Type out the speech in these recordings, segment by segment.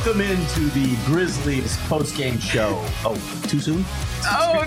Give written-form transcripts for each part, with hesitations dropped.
Welcome into the Grizzlies post-game show. Oh, too soon? Oh,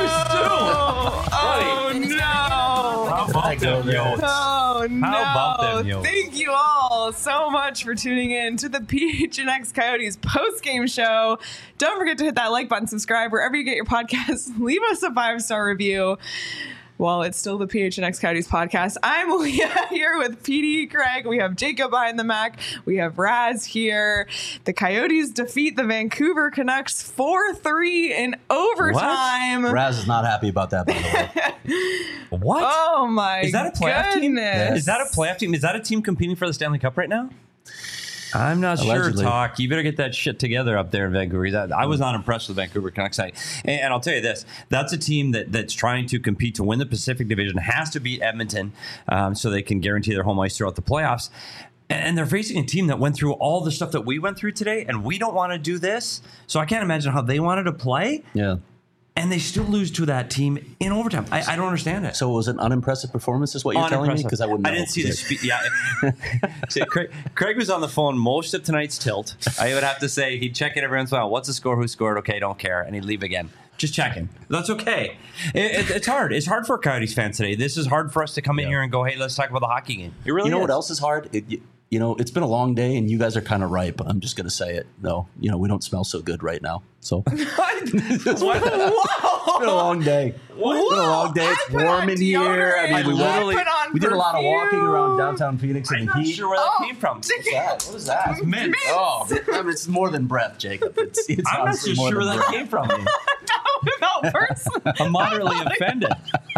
no. Oh, no. How about them, yo? Oh, no. How about them, yo? Thank you all so much for tuning in to the PHNX Coyotes post-game show. Don't forget to hit that like button, subscribe wherever you get your podcasts. Leave us a 5-star review. Well, it's still the PHNX Coyotes podcast. I'm Leah here with PD, Craig. We have Jacob behind the Mac. We have Raz here. The Coyotes defeat the Vancouver Canucks 4-3 in overtime. What? Raz is not happy about that, by the way. What? Oh, my Is that a playoff team? goodness. Is that a playoff team? Is that a team competing for the Stanley Cup right now? I'm not Allegedly. sure, Talk. You better get that shit together up there in Vancouver. I was not impressed with the Vancouver Canucks. And I'll tell you this. That's a team that's trying to compete to win the Pacific Division, has to beat Edmonton so they can guarantee their home ice throughout the playoffs. And they're facing a team that went through all the stuff that we went through today, and we don't want to do this. So I can't imagine how they wanted to play. Yeah. And they still lose to that team in overtime. I don't understand it. So it was an unimpressive performance, is what you're telling me? Because I wouldn't know. I didn't see the speed. Yeah. See, Craig was on the phone most of tonight's tilt. I would have to say he'd check in every once in a while. What's the score? Who scored? Okay, don't care. And he'd leave again. Just checking. That's okay. It's hard. It's hard for Coyotes fans today. This is hard for us to come in here and go, hey, let's talk about the hockey game. It really You know is. what else is hard? It's been a long day, and you guys are kind of ripe. I'm just going to say it, though. We don't smell so good right now. So it's been a long day. It's been a long day. It's warm in here. I mean, we did a lot of walking around downtown Phoenix in I'm the not heat. sure where that came from. What's that? What is that? Mint. Oh, I mean, it's more than breath, Jacob. It's I'm not honestly so more sure than where that breath. came from. No, personally. I'm moderately offended.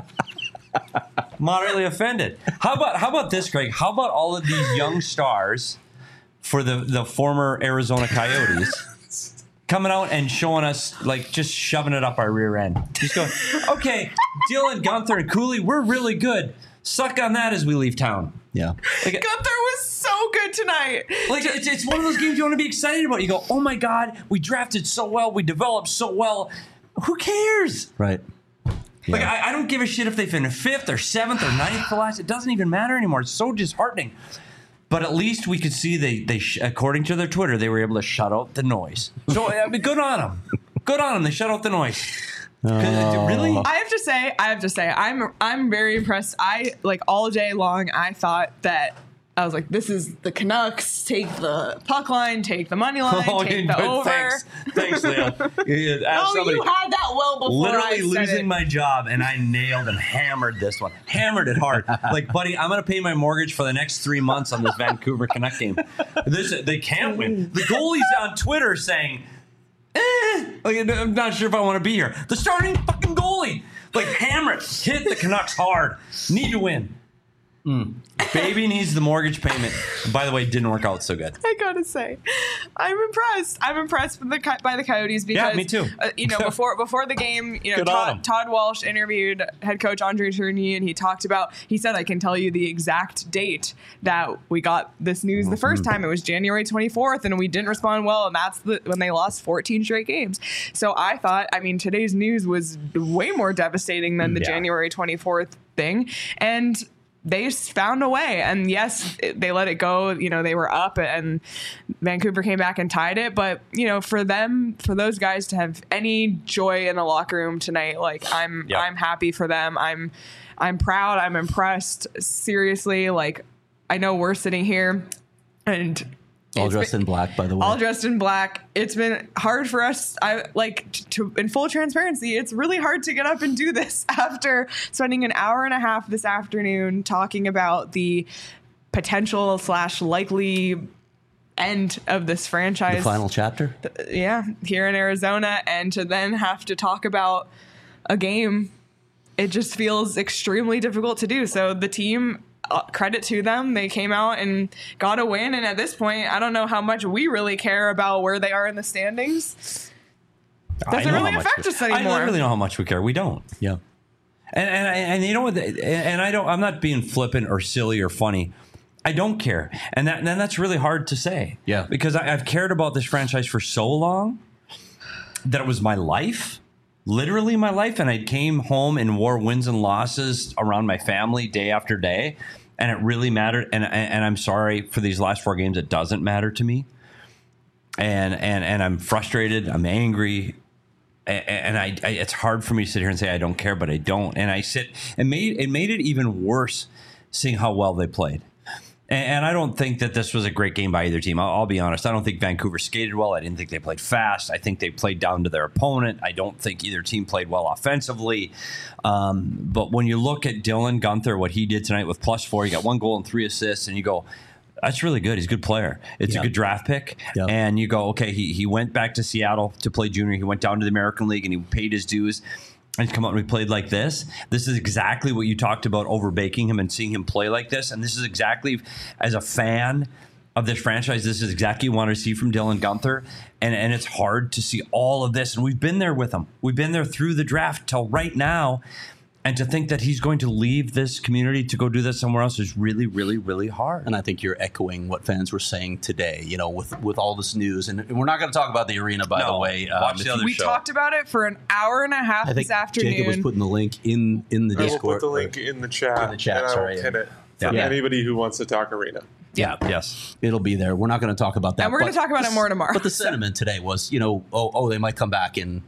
Moderately offended. How about this, Greg? How about all of these young stars for the former Arizona Coyotes coming out and showing us, like, just shoving it up our rear end? Just going, okay, Dylan, Gunther, and Cooley, we're really good. Suck on that as we leave town. Yeah. Like, Gunther was so good tonight. like it's one of those games you want to be excited about. You go, oh my God, we drafted so well, we developed so well. Who cares? Right. Like, Yeah. I don't give a shit if they finish 5th or 7th or 9th for last. It doesn't even matter anymore. It's so disheartening. But at least we could see they according to their Twitter, they were able to shut out the noise. So, I mean, good on them. Good on them. They shut out the noise. Really? I have to say, I'm very impressed. All day long, I thought that I was like, this is the Canucks. Take the puck line, take the money line, take the over. Thanks, Leo. You had that well before literally I said losing it. my job, and I nailed and hammered this one. Hammered it hard. Like, buddy, I'm going to pay my mortgage for the next 3 months on this Vancouver Canuck game. They can't win. The goalie's on Twitter saying, I'm not sure if I want to be here. The starting fucking goalie. Like, hammer it. Hit the Canucks hard. Need to win. Baby needs the mortgage payment. By the way, it didn't work out so good. I gotta say, I'm impressed. I'm impressed by the Coyotes because, Yeah, me too. Before the game, Good on 'em. Todd Walsh interviewed head coach Andre Tourigny, and he said, I can tell you the exact date that we got this news the first time. It was January 24th, and we didn't respond well, and that's when they lost 14 straight games. So I thought, today's news was way more devastating than the January 24th thing, and they found a way. And yes, they let it go. They were up and Vancouver came back and tied it. But, for those guys to have any joy in the locker room tonight, like I'm happy for them. I'm proud. I'm impressed. Seriously. Like, I know we're sitting here and All dressed in black, by the way. all dressed in black. It's been hard for us. In full transparency, it's really hard to get up and do this after spending an hour and a half this afternoon talking about the potential / likely end of this franchise. The final chapter? Here in Arizona, and to then have to talk about a game, it just feels extremely difficult to do. So the team, credit to them, they came out and got a win, and at this point I don't know how much we really care about where they are in the standings. Doesn't really affect us anymore. I don't really know how much we care. We don't. Yeah. And you know what? And I'm not being flippant or silly or funny. I don't care, and that's really hard to say. Yeah. Because I've cared about this franchise for so long that it was my life. Literally my life, and I came home and wore wins and losses around my family day after day, and it really mattered. And I'm sorry for these last 4 games; it doesn't matter to me. and I'm frustrated. I'm angry. And I it's hard for me to sit here and say I don't care, but I don't. And I sit and it made it even worse seeing how well they played. And I don't think that this was a great game by either team. I'll be honest. I don't think Vancouver skated well. I didn't think they played fast. I think they played down to their opponent. I don't think either team played well offensively. But when you look at Dylan Guenther, what he did tonight with +4, he got 1 goal and 3 assists, and you go, that's really good. He's a good player. It's a good draft pick. Yep. And you go, okay, he went back to Seattle to play junior. He went down to the American League, and he paid his dues. And he's come out and we played like this. This is exactly what you talked about, overbaking him and seeing him play like this. And this is exactly, as a fan of this franchise, this is exactly what you want to see from Dylan Guenther. And it's hard to see all of this. And we've been there with him. We've been there through the draft till right now. And to think that he's going to leave this community to go do that somewhere else is really, really, really hard. And I think you're echoing what fans were saying today, with all this news. And we're not going to talk about the arena, by the way. Watch the other we show. Talked about it for an hour and a half this afternoon. Jacob was putting the link in the Discord. I will put the link in the chat. And I will pin it for anybody who wants to talk arena. Yeah. Yes. It'll be there. We're not going to talk about that. And we're going to talk about it more tomorrow. But the sentiment today was, they might come back in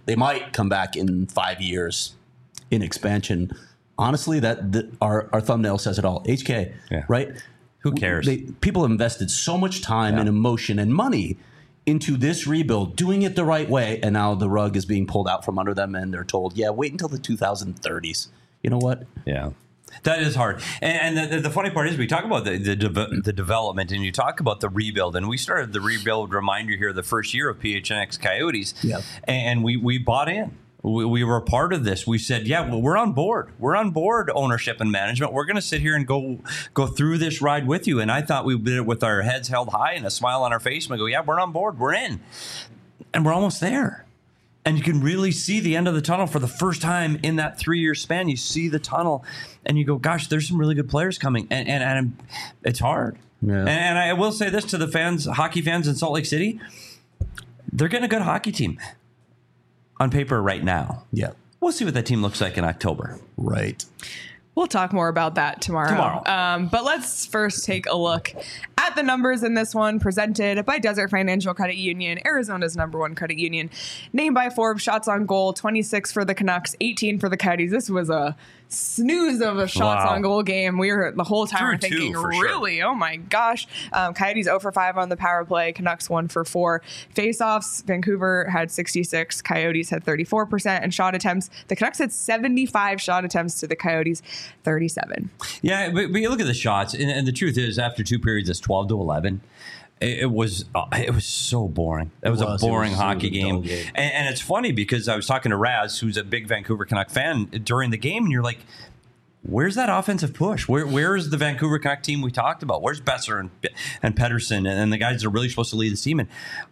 5 years in expansion. Honestly, our thumbnail says it all. HK, right? Who cares? People have invested so much time and emotion and money into this rebuild, doing it the right way, and now the rug is being pulled out from under them, and they're told, wait until the 2030s. You know what? Yeah. That is hard. And the funny part is we talk about the development and you talk about the rebuild. And we started the rebuild reminder here the first year of PHNX Coyotes. Yeah. And we bought in. We were a part of this. We said, we're on board. We're on board, ownership and management. We're going to sit here and go through this ride with you. And I thought we did it with our heads held high and a smile on our face. And we go, we're on board. We're in. And we're almost there. And you can really see the end of the tunnel for the first time in that 3-year span. You see the tunnel and you go, gosh, there's some really good players coming. And it's hard. Yeah. And I will say this to the fans, hockey fans in Salt Lake City. They're getting a good hockey team on paper right now. Yeah. We'll see what that team looks like in October. Right. We'll talk more about that tomorrow. But let's first take a look at the numbers in this one, presented by Desert Financial Credit Union, Arizona's #1 credit union. Named by Forbes, shots on goal, 26 for the Canucks, 18 for the Coyotes. This was a snooze of a shots on goal game. We were the whole time thinking, really? Sure. Oh my gosh. Coyotes 0 for 5 on the power play. Canucks 1 for 4. Face-offs, Vancouver had 66. Coyotes had 34%. And shot attempts, the Canucks had 75 shot attempts to the Coyotes 37. Yeah, but you look at the shots, and the truth is, after 2 periods, it's 12-11. It was so boring. It was a boring hockey game. And it's funny because I was talking to Raz, who's a big Vancouver Canuck fan, during the game, and you're like, where's that offensive push? Where is the Vancouver Canuck team we talked about? Where's Besser and Pettersson and the guys that are really supposed to lead the team? And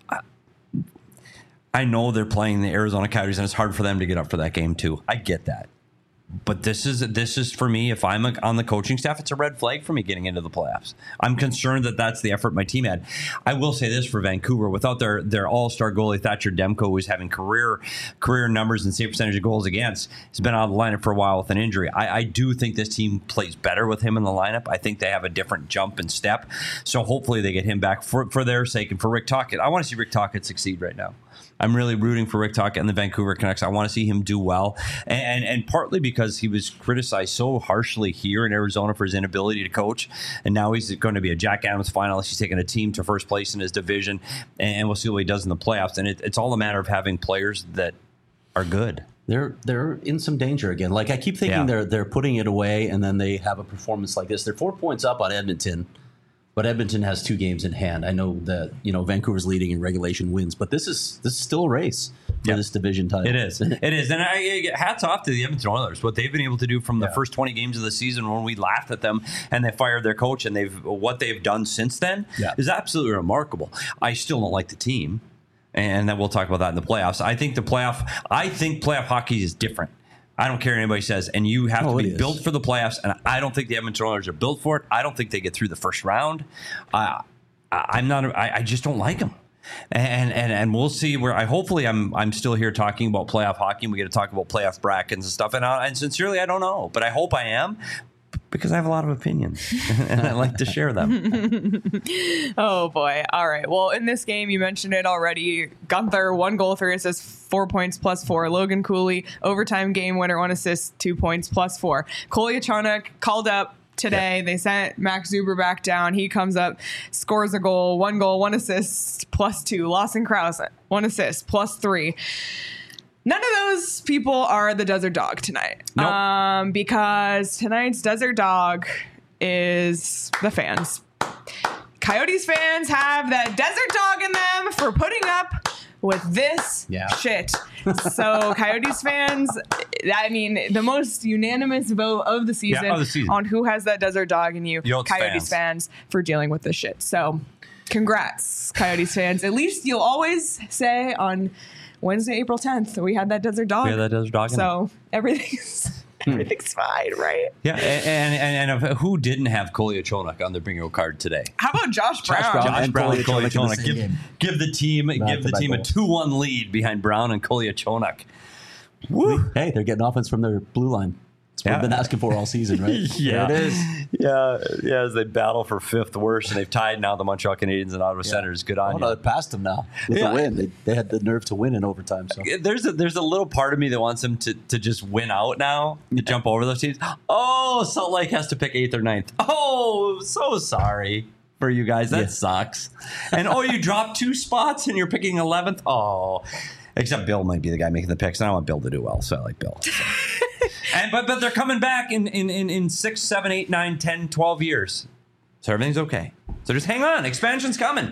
I know they're playing the Arizona Coyotes, and it's hard for them to get up for that game too. I get that. But this is for me, if I'm on the coaching staff, it's a red flag for me getting into the playoffs. I'm concerned that that's the effort my team had. I will say this for Vancouver, without their all-star goalie, Thatcher Demko, who's having career numbers and save percentage of goals against, has been out of the lineup for a while with an injury. I do think this team plays better with him in the lineup. I think they have a different jump and step. So hopefully they get him back for their sake and for Rick Tocchet. I want to see Rick Tocchet succeed right now. I'm really rooting for Rick Tocchet and the Vancouver Canucks. I want to see him do well. And partly because he was criticized so harshly here in Arizona for his inability to coach. And now he's going to be a Jack Adams finalist. He's taking a team to first place in his division. And we'll see what he does in the playoffs. And it's all a matter of having players that are good. They're in some danger again. Like, I keep thinking they're putting it away, and then they have a performance like this. They're 4 points up on Edmonton. But Edmonton has 2 games in hand. I know that Vancouver's leading in regulation wins, but this is still a race for this division title. It is. And hats off to the Edmonton Oilers. What they've been able to do from the first 20 games of the season when we laughed at them and they fired their coach, and what they've done since then is absolutely remarkable. I still don't like the team, and then we'll talk about that in the playoffs. I think playoff hockey is different. I don't care what anybody says, and you have to be built for the playoffs, and I don't think the Edmonton Oilers are built for it. I don't think they get through the first round. I just don't like them. And we'll see where I'm still here talking about playoff hockey, and we get to talk about playoff brackets and stuff. And sincerely, I don't know, but I hope I am. Because I have a lot of opinions and I like to share them. Oh, boy. All right. Well, in this game, you mentioned it already. Gunther, 1 goal, 3 assists, 4 points plus 4. Logan Cooley, overtime game winner, 1 assist, 2 points plus 4. Kolyachonok called up today. They sent Max Zuber back down. He comes up, scores a goal, 1 assist, plus 2. Lawson Krause, 1 assist, plus 3. None of those people are the Desert Dog tonight. Nope. Because tonight's Desert Dog is the fans. Coyotes fans have that Desert Dog in them for putting up with this shit. So Coyotes fans, I mean, the most unanimous vote of the season, on who has that Desert Dog in you. Coyotes fans for dealing with this shit. So congrats, Coyotes fans. At least you'll always say on Wednesday, April 10th, we had that Desert Dog. We had that Desert Dog. So everything's fine, right? Yeah, and who didn't have Kolyachonok on their bingo card today? How about Josh Brown? Josh Brown and Kolyachonok. Give the team a 2-1 lead behind Brown and Kolyachonok. Woo! Hey, they're getting offense from their blue line. That's what we've been asking for all season, right? Yeah, there it is. Yeah, as they battle for 5th worst, and they've tied now the Montreal Canadiens and Ottawa Senators. Good on you. They're past them now with a win. They had the nerve to win in overtime. So there's a little part of me that wants them to just win out now, to jump over those teams. Oh, Salt Lake has to pick 8th or 9th. Oh, so sorry for you guys. That sucks. And you dropped 2 spots and you're picking 11th. Oh, except Bill might be the guy making the picks, and I want Bill to do well, so I like Bill. So. But they're coming back in 6, 7, 8, 9, 10, 12 years. So everything's okay. So just hang on. Expansion's coming.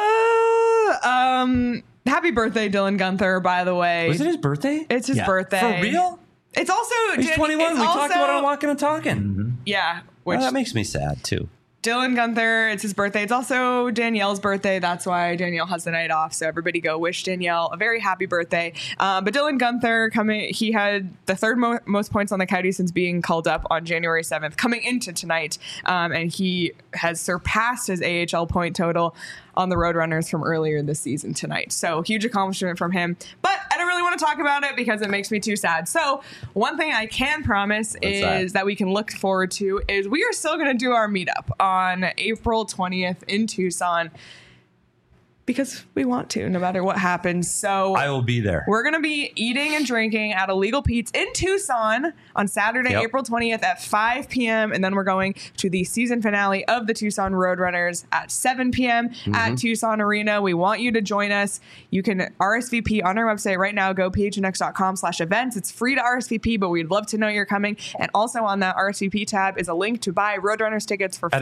Happy birthday, Dylan Gunther, by the way. Was it his birthday? It's his birthday. For real? It's also... He's 21. We talked about it on Walking and Talking. Mm-hmm. Yeah. Well, that makes me sad, too. Dylan Gunther, it's his birthday. It's also Danielle's birthday. That's why Danielle has the night off. So everybody go wish Danielle a very happy birthday. But Dylan Gunther, he had the 3rd most points on the Coyotes since being called up on January 7th, coming into tonight. And he has surpassed his AHL point total on the Roadrunners from earlier this season tonight. So huge accomplishment from him. But I don't really want to talk about it because it makes me too sad. So one thing I can promise that we can look forward to is we are still going to do our meetup on April 20th in Tucson. Because we want to, no matter what happens. So I will be there. We're going to be eating and drinking at Illegal Pete's in Tucson on Saturday, April 20th at 5 p.m. And then we're going to the season finale of the Tucson Roadrunners at 7 p.m. at Tucson Arena. We want you to join us. You can RSVP on our website right now. Go phnx.com/events. It's free to RSVP, but we'd love to know you're coming. And also on that RSVP tab is a link to buy Roadrunners tickets for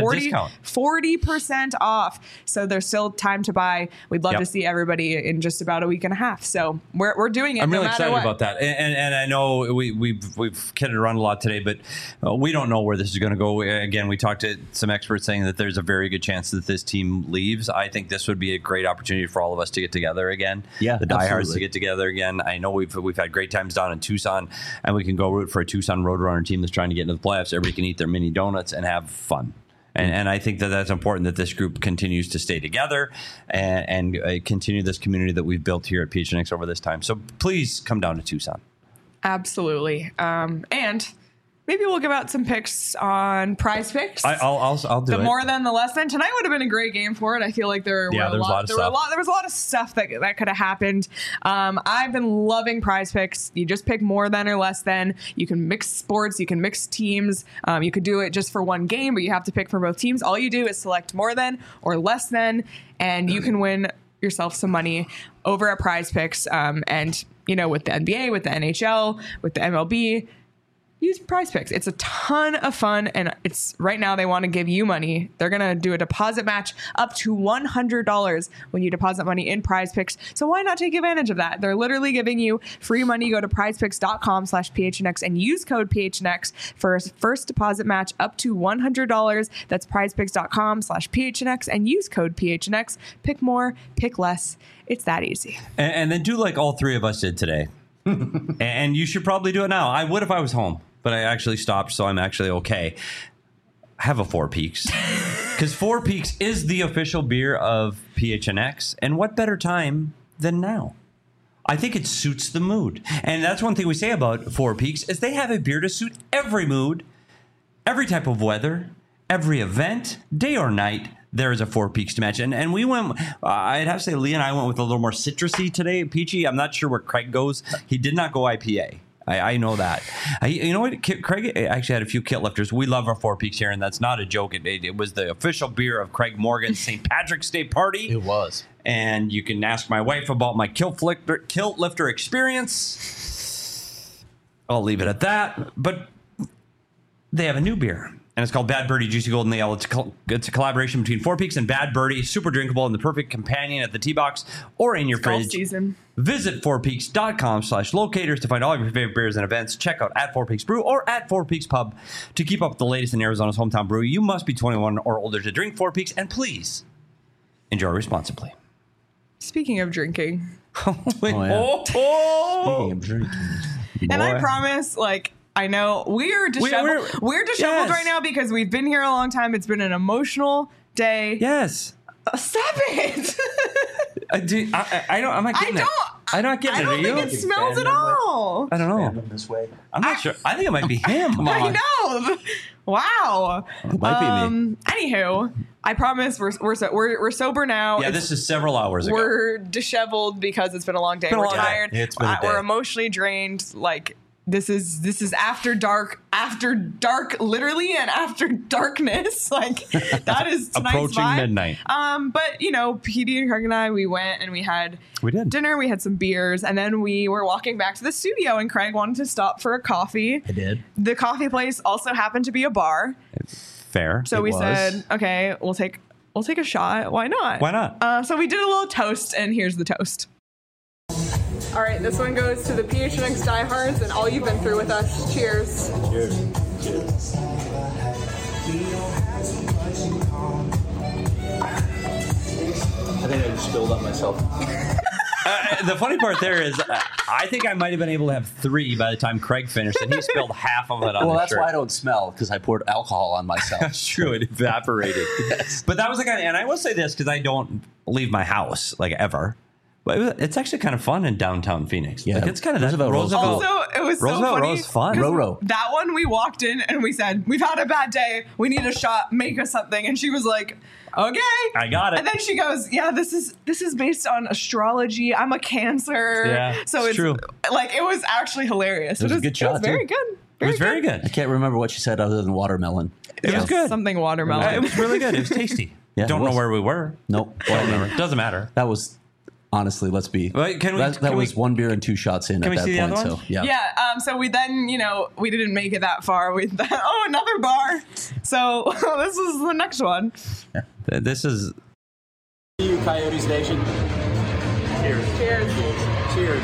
40% off. So there's still time to buy. We'd love to see everybody in just about a week and a half. So we're doing it. I'm really excited about that. And I know we've kidded around a lot today, but we don't know where this is going to go. Again, we talked to some experts saying that there's a very good chance that this team leaves. I think this would be a great opportunity for all of us to get together again. Yeah, the diehards to get together again. I know we've had great times down in Tucson, and we can go root for a Tucson Roadrunner team that's trying to get into the playoffs. Everybody can eat their mini donuts and have fun. And I think that that's important that this group continues to stay together and continue this community that we've built here at PHNX over this time. So please come down to Tucson. Absolutely. And maybe we'll give out some picks on Prize Picks. I'll do it. The more than, the less than. Tonight would have been a great game for it. I feel like there was a lot of stuff that could have happened. I've been loving Prize Picks. You just pick more than or less than. You can mix sports. You can mix teams. You could do it just for one game, but you have to pick for both teams. All you do is select more than or less than, and you can win yourself some money over at Prize Picks. And, with the NBA, with the NHL, with the MLB, use Prize Picks. It's a ton of fun, and it's right now they want to give you money. They're going to do a deposit match up to $100 when you deposit money in Prize Picks. So why not take advantage of that? They're literally giving you free money. Go to prizepicks.com/PHNX and use code PHNX for a first deposit match up to $100. That's prizepicks.com/PHNX and use code PHNX. Pick more, pick less. It's that easy. And then do like all three of us did today. And you should probably do it now. I would if I was home, but I actually stopped, so I'm actually okay. Have a Four Peaks. Because Four Peaks is the official beer of PHNX. And what better time than now? I think it suits the mood. And that's one thing we say about Four Peaks is they have a beer to suit every mood. every type of weather, every event, day or night, there is a Four Peaks to match. And we went, I'd have to say Lee and I went with a little more citrusy today. Peachy, I'm not sure where Craig goes. He did not go IPA. I know that. You know what? Craig actually had a few kit lifters. We love our Four Peaks here, and that's not a joke. It was the official beer of Craig Morgan's St. Patrick's Day party. It was. And you can ask my wife about my kilt lifter experience. I'll leave it at that. But they have a new beer, and it's called Bad Birdie Juicy Golden Ale. It's a collaboration between Four Peaks and Bad Birdie. Super drinkable and the perfect companion at the tee box or in your fridge. Season. Visit fourpeaks.com/locators to find all of your favorite beers and events. Check out at Four Peaks Brew or at Four Peaks Pub to keep up with the latest in Arizona's hometown brew. You must be 21 or older to drink Four Peaks, and please enjoy responsibly. Speaking of drinking. Speaking of drinking. And I promise, like, I know we're disheveled. We're disheveled right now because we've been here a long time. It's been an emotional day. Yes. Stop it. I don't. I'm not getting it. I'm not getting it. I don't think it smells at all. I don't know. This way. I'm not sure. I think it might be him. Come on. I know. Wow. It might be me. Anywho, I promise we're sober now. Yeah, this is several hours ago. We're disheveled because it's been a long day. We're tired. It's been a day. We're emotionally drained. Like, this is after dark, literally, and after darkness. Like, that is tonight's approaching vibe. Midnight. But you know, PD and Craig and I, we went and we did dinner. We had some beers, and then we were walking back to the studio. And Craig wanted to stop for a coffee. I did. The coffee place also happened to be a bar. Fair. So we said, okay, we'll take a shot. Why not? Why not? So we did a little toast, and here's the toast. All right, this one goes to the PHNX diehards and all you've been through with us. Cheers. Cheers. Cheers. I think I just spilled on myself. The funny part there is, I think I might have been able to have 3 by the time Craig finished, and he spilled half of it on Well, his that's shirt. why I don't smell, because I poured alcohol on myself. That's true. It evaporated. Yes. But that was the kind of, and I will say this because I don't leave my house, like, ever. But it's actually kind of fun in downtown Phoenix. Yeah, like, it's kind of Roosevelt Also, it was so Roosevelt funny. Road's fun. Roro. That one, we walked in and we said, we've had a bad day. We need a shot. Make us something. And she was like, okay. I got it. And then she goes, yeah, this is based on astrology. I'm a Cancer. Yeah, so it's true. Like, it was actually hilarious. It was a good shot, It was very too. good. It was very good. I can't remember what she said other than watermelon. It was good. Something watermelon. It was really good. It was tasty. Yeah, Don't it know was. where we were. Nope. Whatever. Doesn't matter. That was, honestly, let's be. Wait, that was 1 beer and 2 shots in Can at we that see the point. other So one? yeah. Yeah. So we then, we didn't make it that far. We thought, oh, another bar. So this is the next one. This is. Coyote Station. Cheers. Cheers. Cheers.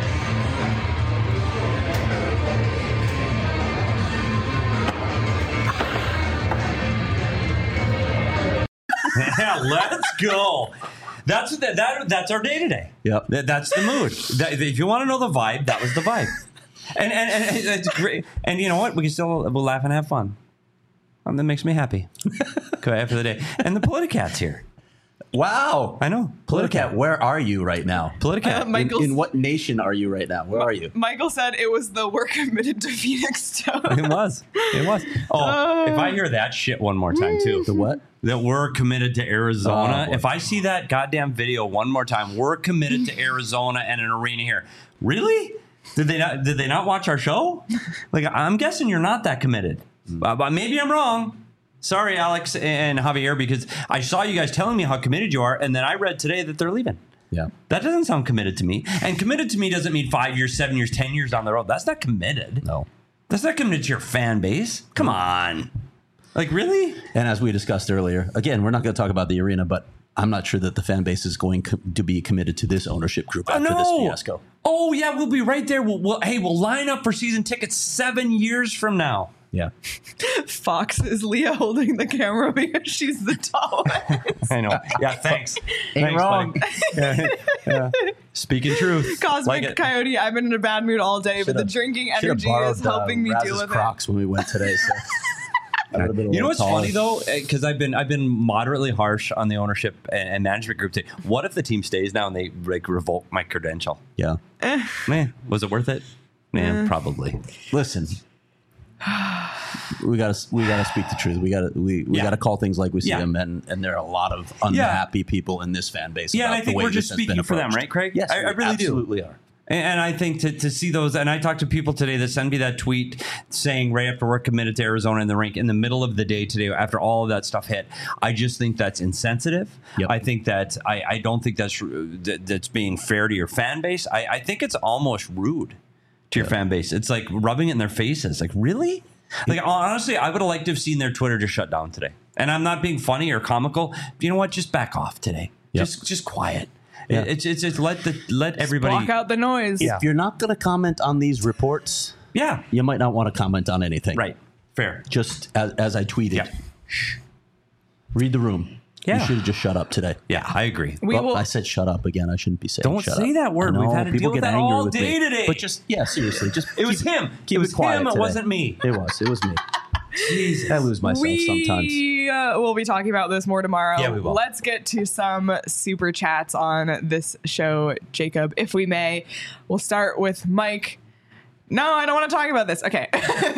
Yeah, let's go. That's our day today. Yep. That's the mood. If you want to know the vibe, that was the vibe. And it's great. And you know what? We'll laugh and have fun. That makes me happy. After the day. And the Politicat's here. Wow. I know. Politicat, where are you right now? Politicat. In what nation are you right now? Where are you? Michael said it was the "We're committed to Phoenix" tone. It was. Oh, if I hear that shit one more time too. The what? That we're committed to Arizona. Oh, If I see that goddamn video one more time, we're committed to Arizona and an arena here. Really? Did they not watch our show? Like, I'm guessing you're not that committed. But maybe I'm wrong. Sorry, Alex and Javier, because I saw you guys telling me how committed you are, and then I read today that they're leaving. Yeah. That doesn't sound committed to me. And committed to me doesn't mean 5 years, 7 years, 10 years down the road. That's not committed. No. That's not committed to your fan base. Come on. Like, really? And as we discussed earlier, again, we're not going to talk about the arena, but I'm not sure that the fan base is going to be committed to this ownership group after this fiasco. Oh, yeah, we'll be right there. We'll line up for season tickets 7 years from now. Yeah. Fox is Leah holding the camera because she's the tallest. I know. Yeah, thanks. Ain't Thanks, wrong. Yeah. Speaking truth. Cosmic Like Coyote, I've been in a bad mood all day, but the drinking energy is helping me deal with Crocs when we went today. So. You know what's funny though, because I've been moderately harsh on the ownership and management group today. What if the team stays now and they like revoke my credential? Yeah. Man, was it worth it? Man, probably. Listen. we gotta speak the truth. We gotta call things like we see them, and there are a lot of unhappy people in this fan base. Yeah, and I think we're just speaking for them, right, Craig? Yes, I really absolutely do. Are. And I think to see those, and I talked to people today that send me that tweet saying right after we're committed to Arizona in the rink in the middle of the day today after all of that stuff hit. I just think that's insensitive. Yep. I think that I don't think that's being fair to your fan base. I think it's almost rude to your fan base. It's like rubbing it in their faces. Like, really? Like, honestly, I would have liked to have seen their Twitter just shut down today. And I'm not being funny or comical. You know what? Just back off today. Yep. Just quiet. Yeah. It's let everybody block out the noise. If you're not going to comment on these reports, you might not want to comment on anything. Right. Fair. Just as I tweeted, read the room. Yeah. You should have just shut up today. Yeah, I agree. I said shut up again. I shouldn't be saying Don't shut say up. that word. We've had to deal with that all day today. But just, seriously. Just it was him. Keep it was it quiet him. It today. wasn't me. It was me. Jesus. I lose myself sometimes. We'll be talking about this more tomorrow. Yeah, we will. Let's get to some super chats on this show, Jacob, if we may. We'll start with Mike. No, I don't want to talk about this. Okay.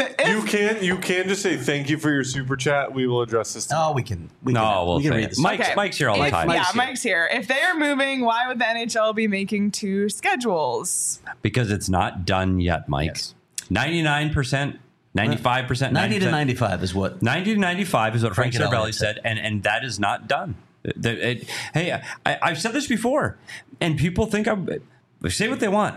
You can just say thank you for your super chat. We will address this tomorrow. Oh, we can We'll say read it. this. Mike's here all the time. Mike's here. If they are moving, why would the NHL be making two schedules? Because it's not done yet, Mike. Yes. 99%, 95%, 90 to 95 is what 90 to 95 is what Frank Frank Saravelli said, and that is not done. Hey, I've said this before, and people think say what they want.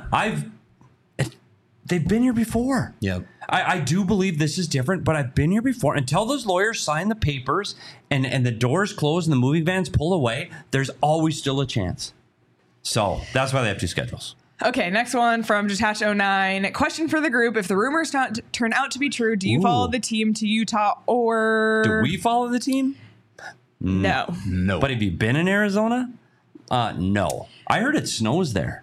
They've been here before. Yeah. I do believe this is different, but I've been here before. Until those lawyers sign the papers and the doors close and the moving vans pull away, there's always still a chance. So that's why they have two schedules. Okay, next one from Detached09. Question for the group. If the rumors turn out to be true, do you follow the team to Utah or... Do we follow the team? No. No. But have you been in Arizona? No. I heard it snows there.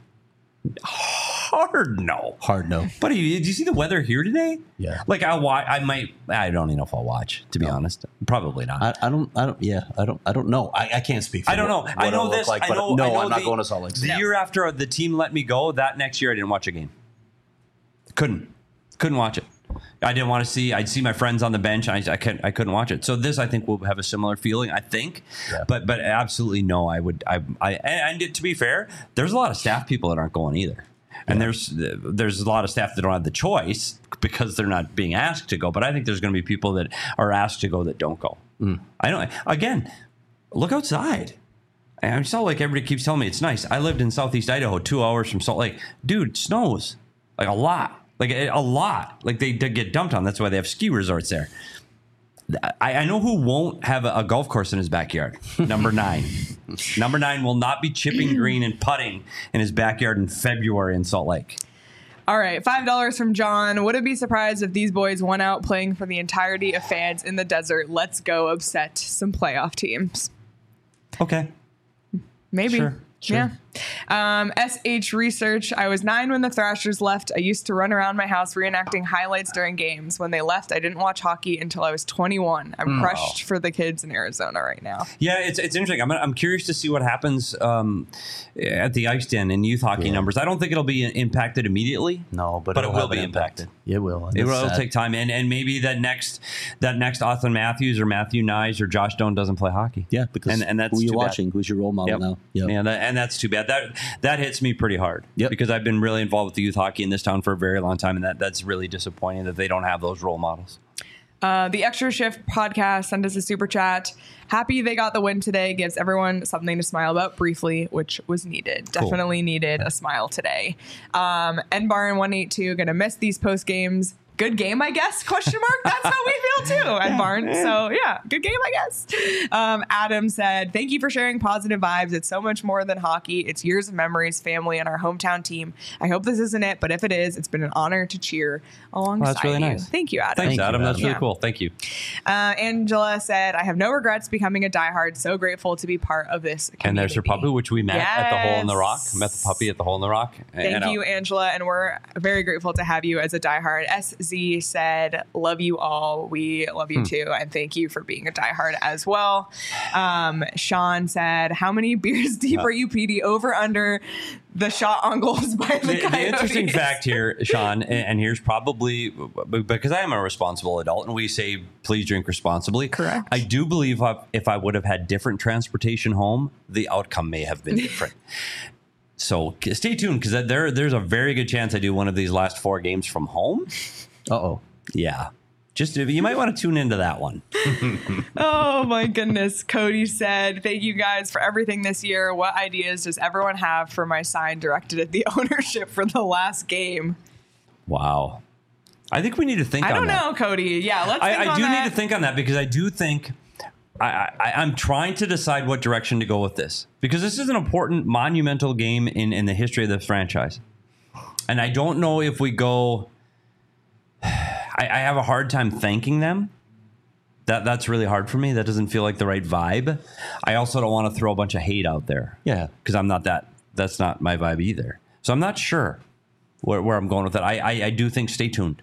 Hard no. But did you see the weather here today? Yeah. Like I don't even know if I'll watch, to be honest. Probably not. I don't know. I can't speak for I don't know. what I know it'll this. look like, I know, but I no, know I'm not going to Salt Lake The City. year after the team let me go, that next year I didn't watch a game. Couldn't watch it. I didn't want to see. I'd see my friends on the bench. I couldn't watch it. So this, I think, will have a similar feeling. I think, but absolutely no. I would. And to be fair, there's a lot of staff people that aren't going either. And there's a lot of staff that don't have the choice because they're not being asked to go. But I think there's going to be people that are asked to go that don't go. I don't. Again, look outside. I'm Salt Lake. Everybody keeps telling me it's nice. I lived in Southeast Idaho, 2 hours from Salt Lake. Dude, it snows like a lot. Like a lot. Like they get dumped on. That's why they have ski resorts there. I know who won't have a golf course in his backyard. Number 9. Number 9 will not be chipping green and putting in his backyard in February in Salt Lake. All right, $5 from John. Would it be surprised if these boys went out playing for the entirety of fans in the desert? Let's go upset some playoff teams. Okay. Maybe. Sure. Yeah. SH Research. I was 9 when the Thrashers left. I used to run around my house reenacting highlights during games. When they left, I didn't watch hockey until I was 21. I'm crushed for the kids in Arizona right now. Yeah, it's interesting. I'm curious to see what happens at the Ice Den in youth hockey numbers. I don't think it'll be impacted immediately. No, but it will be impacted. It will. It will take time, and maybe that next Austin Matthews or Matthew Nyes or Josh Doan doesn't play hockey. Yeah, because and that's who are you too watching? bad. Who's your role model now? Yep. Yeah, and that's too bad. That hits me pretty hard. Yep. Because I've been really involved with the youth hockey in this town for a very long time, and that's really disappointing that they don't have those role models. The Extra Shift podcast sent us a super chat. Happy they got the win today. Gives everyone something to smile about briefly, which was needed. Cool. Definitely needed a smile today. NBarn182 gonna miss these post games. Good game, I guess, question mark. That's how we feel too at Barn. So yeah, good game, I guess. Adam said, thank you for sharing positive vibes. It's so much more than hockey. It's years of memories, family, and our hometown team. I hope this isn't it, but if it is, it's been an honor to cheer alongside that's really you. nice. Thank you, Adam. Thanks, Adam. That's really cool. Thank you. Angela said, I have no regrets becoming a diehard. So grateful to be part of this community. And there's her puppy, which we met at the Hole in the Rock. Met the puppy at the Hole in the Rock. Thank you, Angela. And we're very grateful to have you as a diehard. Z said, love you all. We love you too. And thank you for being a diehard as well. Sean said, how many beers deep are you, PD? Over under the shot on goals by the Coyotes? The interesting fact here, Sean, and here's probably because I am a responsible adult and we say, please drink responsibly. Correct. I do believe if I would have had different transportation home, the outcome may have been different. So stay tuned because there's a very good chance I do one of these last 4 games from home. Uh-oh. Yeah. Just you might want to tune into that one. Oh my goodness. Cody said, thank you guys for everything this year. What ideas does everyone have for my sign directed at the ownership for the last game? Wow. I think we need to think on that. I don't know, Cody. Yeah, let's think on I do that. need to think on that because I do think I'm trying to decide what direction to go with this because this is an important, monumental game in the history of this franchise. And I don't know if we go... I have a hard time thanking them. That's really hard for me. That doesn't feel like the right vibe. I also don't want to throw a bunch of hate out there. Yeah. Because I'm not that's not my vibe either. So I'm not sure where I'm going with that. I do think stay tuned.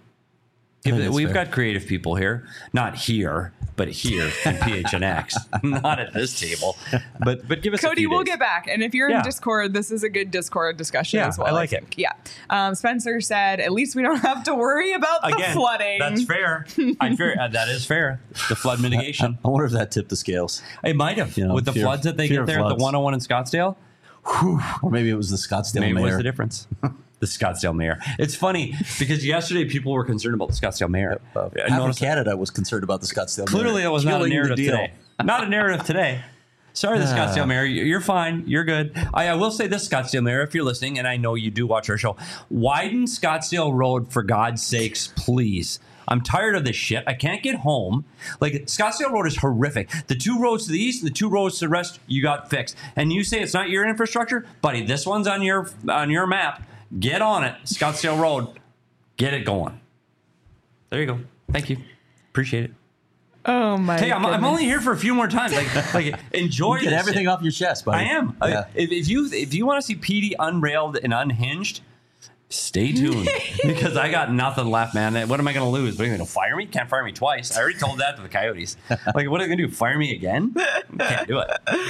We've got creative people here, not here, but here in PHNX, not at this table. But give us Cody, a few we'll days. get back. And if you're in Discord, this is a good Discord discussion as well. I like it. Yeah. Spencer said, at least we don't have to worry about the flooding. That's fair. That is fair. The flood mitigation. I wonder if that tipped the scales. It might have. With the floods that they get there at the 101 in Scottsdale. Or maybe it was the Scottsdale Maybe mayor. What's the difference? The Scottsdale mayor. It's funny because yesterday people were concerned about the Scottsdale mayor. Half of Canada was concerned about the Scottsdale mayor. Clearly, that was not a narrative today. Not a narrative today. Sorry, the Scottsdale mayor. You're fine. You're good. I will say this, Scottsdale mayor, if you're listening, and I know you do watch our show, widen Scottsdale Road for God's sakes, please. I'm tired of this shit. I can't get home. Like, Scottsdale Road is horrific. The 2 roads to the east, the 2 roads to the rest, you got fixed. And you say it's not your infrastructure? Buddy, this one's on your map. Get on it. Scottsdale Road. Get it going. There you go. Thank you. Appreciate it. Oh my Hey, I'm only here for a few more times. Like enjoy Get everything off your chest, buddy. I am. Yeah. If you want to see PD unrailed and unhinged, stay tuned because I got nothing left, man. What am I going to lose? What are you going to fire me? Can't fire me twice. I already told that to the Coyotes. Like, what are they going to do? Fire me again? Can't do it.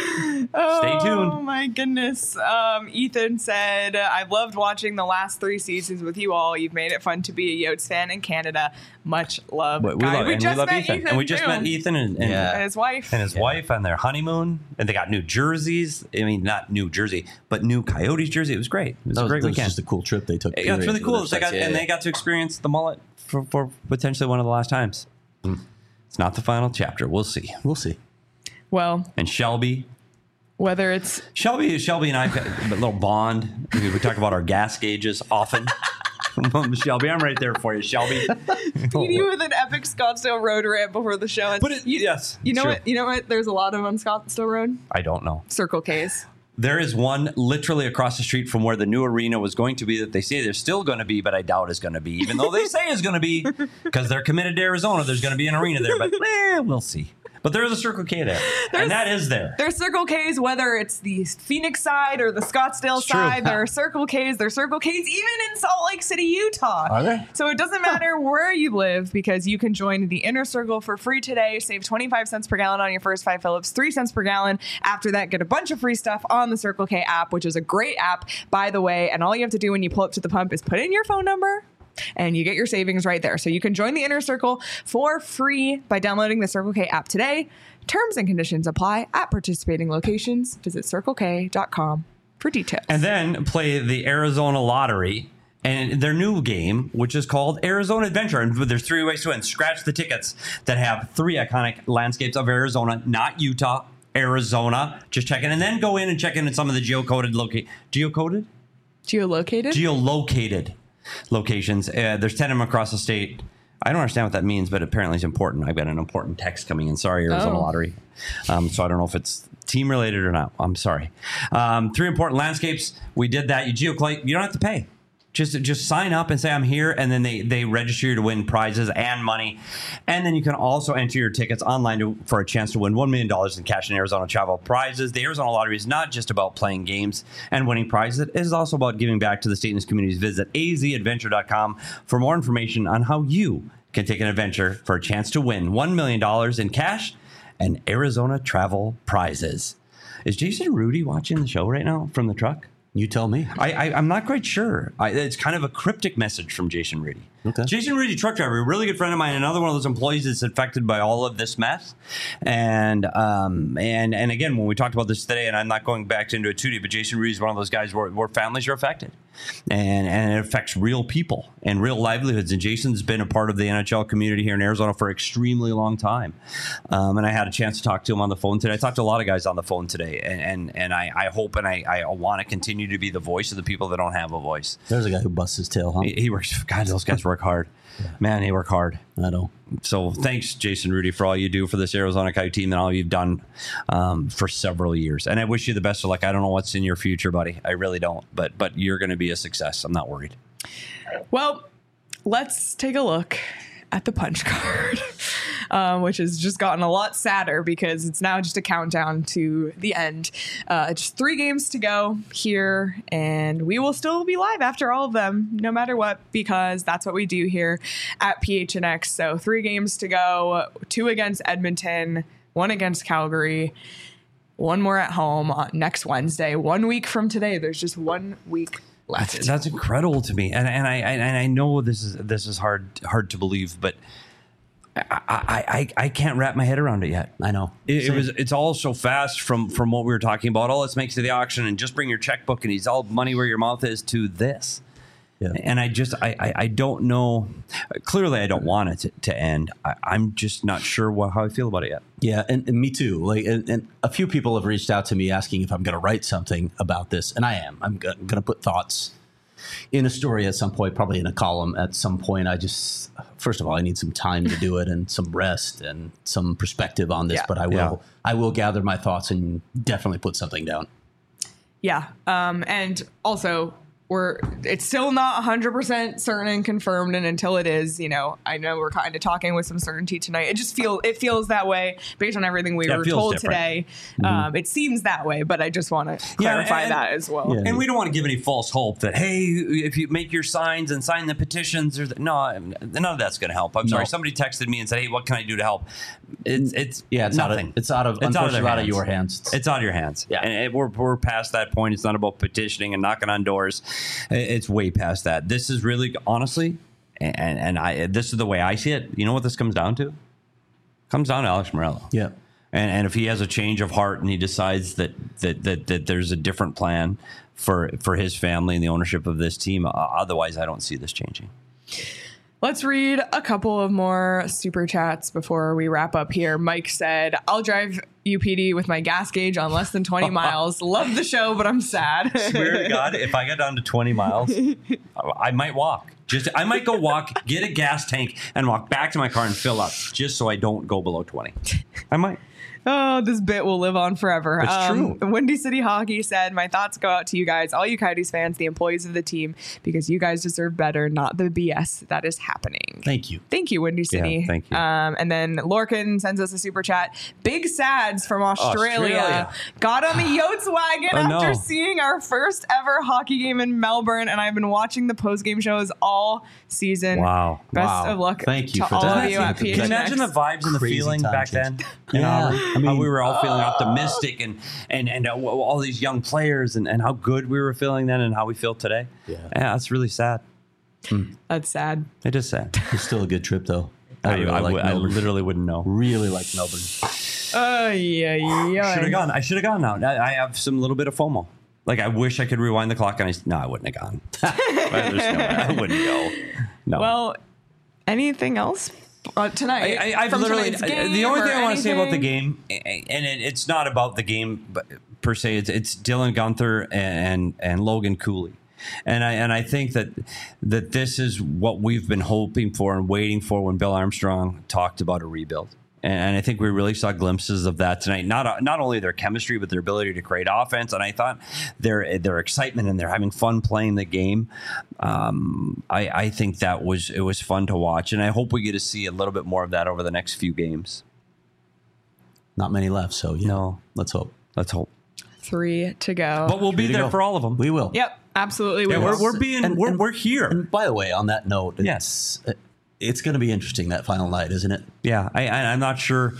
Stay tuned. Oh my goodness. Ethan said, I've loved watching the last 3 seasons with you all. You've made it fun to be a Yotes fan in Canada. Much love. We love Ethan. And we just met Ethan and his wife. And his wife on their honeymoon. And they got new jerseys. I mean, not New Jersey, but new Coyotes jersey. It was great. It was a great weekend. It was just a cool trip they took. Yeah, it's really cool. They got to experience the mullet for potentially one of the last times. It's not the final chapter. We'll see. We'll see. Well, and Shelby. Whether it's Shelby and I have a little bond. We talk about our gas gauges often. Shelby, I'm right there for you, Shelby. PD with an epic Scottsdale Road rant before the show. Yes. You know what? You know what? There's a lot of on Scottsdale Road. I don't know. Circle K's. There is one literally across the street from where the new arena was going to be that they say there's still going to be, but I doubt is going to be, even though they say it's going to be, because they're committed to Arizona. There's going to be an arena there, but we'll see. But there is a Circle K there, and that is there. There's Circle K's, whether it's the Phoenix side or the Scottsdale side. There are Circle K's. There's Circle K's even in Salt Lake City, Utah. Are there? So it doesn't matter where you live because you can join the Inner Circle for free today. Save 25 cents per gallon on your first 5 Phillips, 3 cents per gallon. After that, get a bunch of free stuff on the Circle K app, which is a great app, by the way. And all you have to do when you pull up to the pump is put in your phone number, and you get your savings right there. So you can join the Inner Circle for free by downloading the Circle K app today. Terms and conditions apply at participating locations. Visit CircleK.com for details. And then play the Arizona Lottery and their new game, which is called Arizona Adventure. And there's 3 ways to win. Scratch the tickets that have 3 iconic landscapes of Arizona, not Utah, Arizona. Just check in. And then go in and check in some of the geolocated locations. There's 10 of them across the state. I don't understand what that means, but apparently it's important. I've got an important text coming in. Sorry, Arizona Lottery. So I don't know if it's team related or not. I'm sorry. 3 important landscapes. We did that. You geoclate. You don't have to pay. Just sign up and say I'm here, and then they register you to win prizes and money. And then you can also enter your tickets online for a chance to win $1 million in cash and Arizona travel prizes. The Arizona Lottery is not just about playing games and winning prizes. It is also about giving back to the state and its communities. Visit azadventure.com for more information on how you can take an adventure for a chance to win $1 million in cash and Arizona travel prizes. Is Jason Rudy watching the show right now from the truck? You tell me. I'm not quite sure. It's kind of a cryptic message from Jason Rudy. Okay. Jason Rudy, truck driver, a really good friend of mine, another one of those employees that's affected by all of this mess. And again, when we talked about this today, and I'm not going back into it too deep, but Jason Rudy is one of those guys where families are affected. And it affects real people and real livelihoods. And Jason's been a part of the NHL community here in Arizona for an extremely long time. And I had a chance to talk to him on the phone today. I talked to a lot of guys on the phone today. And I hope and I want to continue to be the voice of the people that don't have a voice. There's a guy who busts his tail, huh? He works. God, those guys work hard. Yeah. Man, they work hard. I know. So thanks, Jason Rudy, for all you do for this Arizona Coyote team and all you've done for several years. And I wish you the best of luck. I don't know what's in your future, buddy. I really don't. But you're going to be a success. I'm not worried. Well, let's take a look at the punch card, which has just gotten a lot sadder because it's now just a countdown to the end. Just 3 games to go here, and we will still be live after all of them, no matter what, because that's what we do here at PHNX. So 3 games to go, 2 against Edmonton, 1 against Calgary, 1 more at home next Wednesday. 1 week from today, there's just 1 week left. That's incredible to me, and I know this is hard to believe, but I can't wrap my head around it yet. I know it's all so fast from what we were talking about. Oh, let's make it to the auction and just bring your checkbook and he's all money where your mouth is to this. Yeah. And I don't know. Clearly, I don't want it to end. I'm just not sure how I feel about it yet. Yeah, and me too. Like, and a few people have reached out to me asking if I'm going to write something about this, and I am. I'm going to put thoughts in a story at some point, probably in a column at some point. First of all, I need some time to do it and some rest and some perspective on this. Yeah. But I will gather my thoughts and definitely put something down. Yeah, and also, it's still not 100% certain and confirmed, and until it is, I know we're kind of talking with some certainty tonight. It feels that way based on everything we were told today. Mm-hmm. It seems that way, but I just want to clarify that as well. Yeah. And we don't want to give any false hope that, hey, if you make your signs and sign the petitions, no, none of that's going to help. I'm sorry. Somebody texted me and said, hey, what can I do to help? It's nothing. It's out of your hands. It's out of your hands. Yeah. And we're past that point. It's not about petitioning and knocking on doors. It's way past that. This is really, honestly, and this is the way I see it. You know what this comes down to? It comes down to Alex Morello. Yeah. And if he has a change of heart and he decides that there's a different plan for his family and the ownership of this team, otherwise I don't see this changing. Let's read a couple of more super chats before we wrap up here. Mike said, I'll drive UPD with my gas gauge on less than 20 miles. Love the show, but I'm sad. Swear to God, if I got down to 20 miles, I might walk. I might go walk, get a gas tank, and walk back to my car and fill up, just so I don't go below 20. I might. Oh, this bit will live on forever. It's true. Windy City Hockey said, my thoughts go out to you guys, all you Coyotes fans, the employees of the team, because you guys deserve better, not the BS that is happening. Thank you. Thank you, Windy City. Yeah, thank you. And then Lorcan sends us a super chat. Big Sads from Australia. Got on the Yotes wagon after seeing our first ever hockey game in Melbourne, and I've been watching the post-game shows all season. Wow. Best of luck Thank you to for all that. of you at PHNX. Can you imagine the vibes and the feeling back then? Yeah. How we were all feeling optimistic and all these young players and how good we were feeling then and how we feel today. Yeah, that's really sad. That's sad. It is sad. It's still a good trip, though. I literally wouldn't know. Really like Melbourne. Yeah. I should have gone now. I have some little bit of FOMO. Like, I wish I could rewind the clock, and I wouldn't have gone. There's no way. I wouldn't go. No. Well, anything else? Tonight, I've literally the only thing I want to say about the game, and it's not about the game per se. It's Dylan Guenther and Logan Cooley, and I think that this is what we've been hoping for and waiting for when Bill Armstrong talked about a rebuild. And I think we really saw glimpses of that tonight. Not only their chemistry, but their ability to create offense. And I thought their excitement and they're having fun playing the game. I think it was fun to watch. And I hope we get to see a little bit more of that over the next few games. Not many left, so no. Let's hope. 3 to go. But we'll be there for all of them. We will. Yep, absolutely. We're here. And by the way, on that note, it's going to be interesting, that final night, isn't it? Yeah, I'm not sure.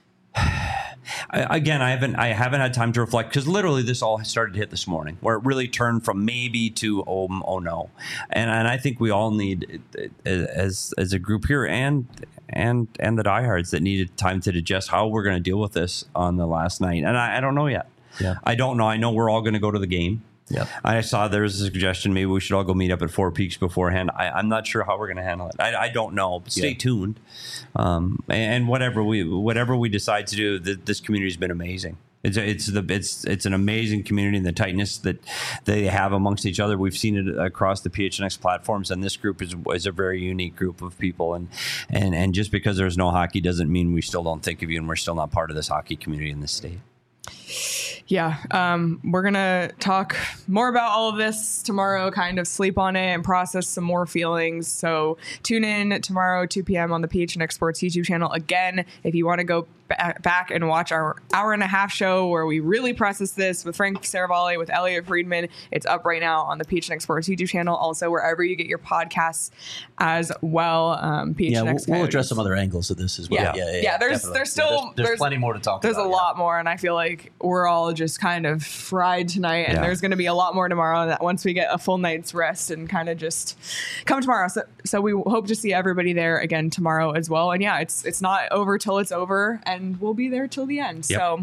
I haven't had time to reflect because literally this all started to hit this morning, where it really turned from maybe to oh no, and I think we all need as a group here and the diehards that needed time to digest how we're going to deal with this on the last night, and I don't know yet. Yeah, I don't know. I know we're all going to go to the game. Yeah, I saw there was a suggestion maybe we should all go meet up at Four Peaks beforehand. I'm not sure how we're going to handle it. I don't know. But stay tuned. And whatever we decide to do, this community's been amazing. It's an amazing community, and the tightness that they have amongst each other. We've seen it across the PHNX platforms, and this group is a very unique group of people. And just because there's no hockey doesn't mean we still don't think of you, and we're still not part of this hockey community in this state. Yeah, we're going to talk more about all of this tomorrow, kind of sleep on it and process some more feelings. So tune in tomorrow, 2 p.m. on the PHNX Sports YouTube channel. Again, if you want to go back and watch our hour-and-a-half show where we really process this with Frank Saravalli, with Elliot Friedman, it's up right now on the PHNX Sports YouTube channel. Also, wherever you get your podcasts as well. We'll address some other angles of this as well. Yeah, there's still there's plenty more to talk about. There's a lot more, and I feel like we're all just kind of fried tonight, and there's going to be a lot more tomorrow that once we get a full night's rest and kind of just come tomorrow. So we hope to see everybody there again tomorrow as well. And it's not over till it's over, and we'll be there till the end. Yep. So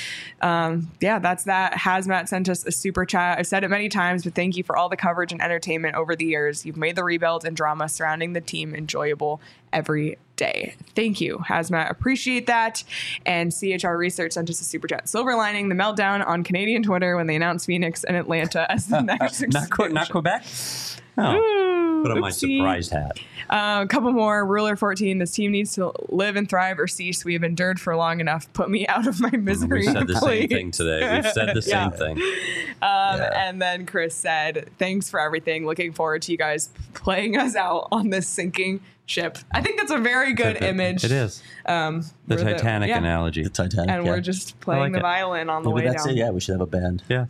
that's that. Hazmat sent us a super chat. I've said it many times, but thank you for all the coverage and entertainment over the years. You've made the rebuild and drama surrounding the team enjoyable every day. Thank you, Hazmat. Appreciate that. And CHR Research sent us a super chat. Silver lining the meltdown on Canadian Twitter when they announced Phoenix and Atlanta as the next not Quebec? Oh, put on my surprised hat. A couple more. Ruler 14. This team needs to live and thrive or cease. We have endured for long enough. Put me out of my misery. We said the same thing today. We've said the same thing. And then Chris said, thanks for everything. Looking forward to you guys playing us out on this sinking ship. I think that's a very good image. It is. The Titanic analogy. The Titanic. And we're just playing the violin on the way down. That's it. Yeah, we should have a band. Yeah.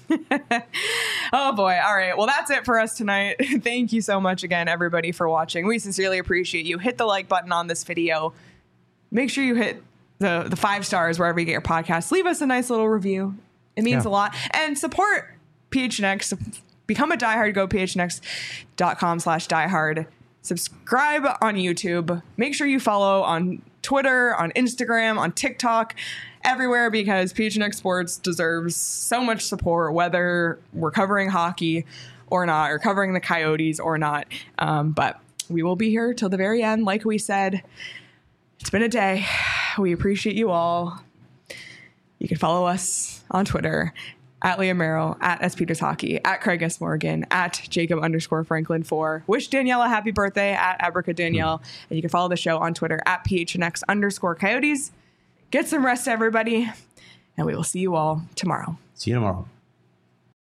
Oh boy. All right. Well, that's it for us tonight. Thank you so much again, everybody, for watching. We sincerely appreciate you. Hit the like button on this video. Make sure you hit the 5 stars wherever you get your podcast. Leave us a nice little review. It means a lot. And support PHNX. Become a diehard. Go phnx.com/diehard. Subscribe on YouTube. Make sure you follow on Twitter, on Instagram, on TikTok, everywhere, because PHNX Sports deserves so much support, whether we're covering hockey or not, or covering the Coyotes or not. But we will be here till the very end. Like we said, it's been a day. We appreciate you all. You can follow us on Twitter at Liam Merrill, at S. Peters Hockey, at Craig S. Morgan, at Jacob_Franklin4. Wish Danielle a happy birthday at Abrica Danielle. And you can follow the show on Twitter at PHNX_Coyotes. Get some rest, everybody. And we will see you all tomorrow. See you tomorrow.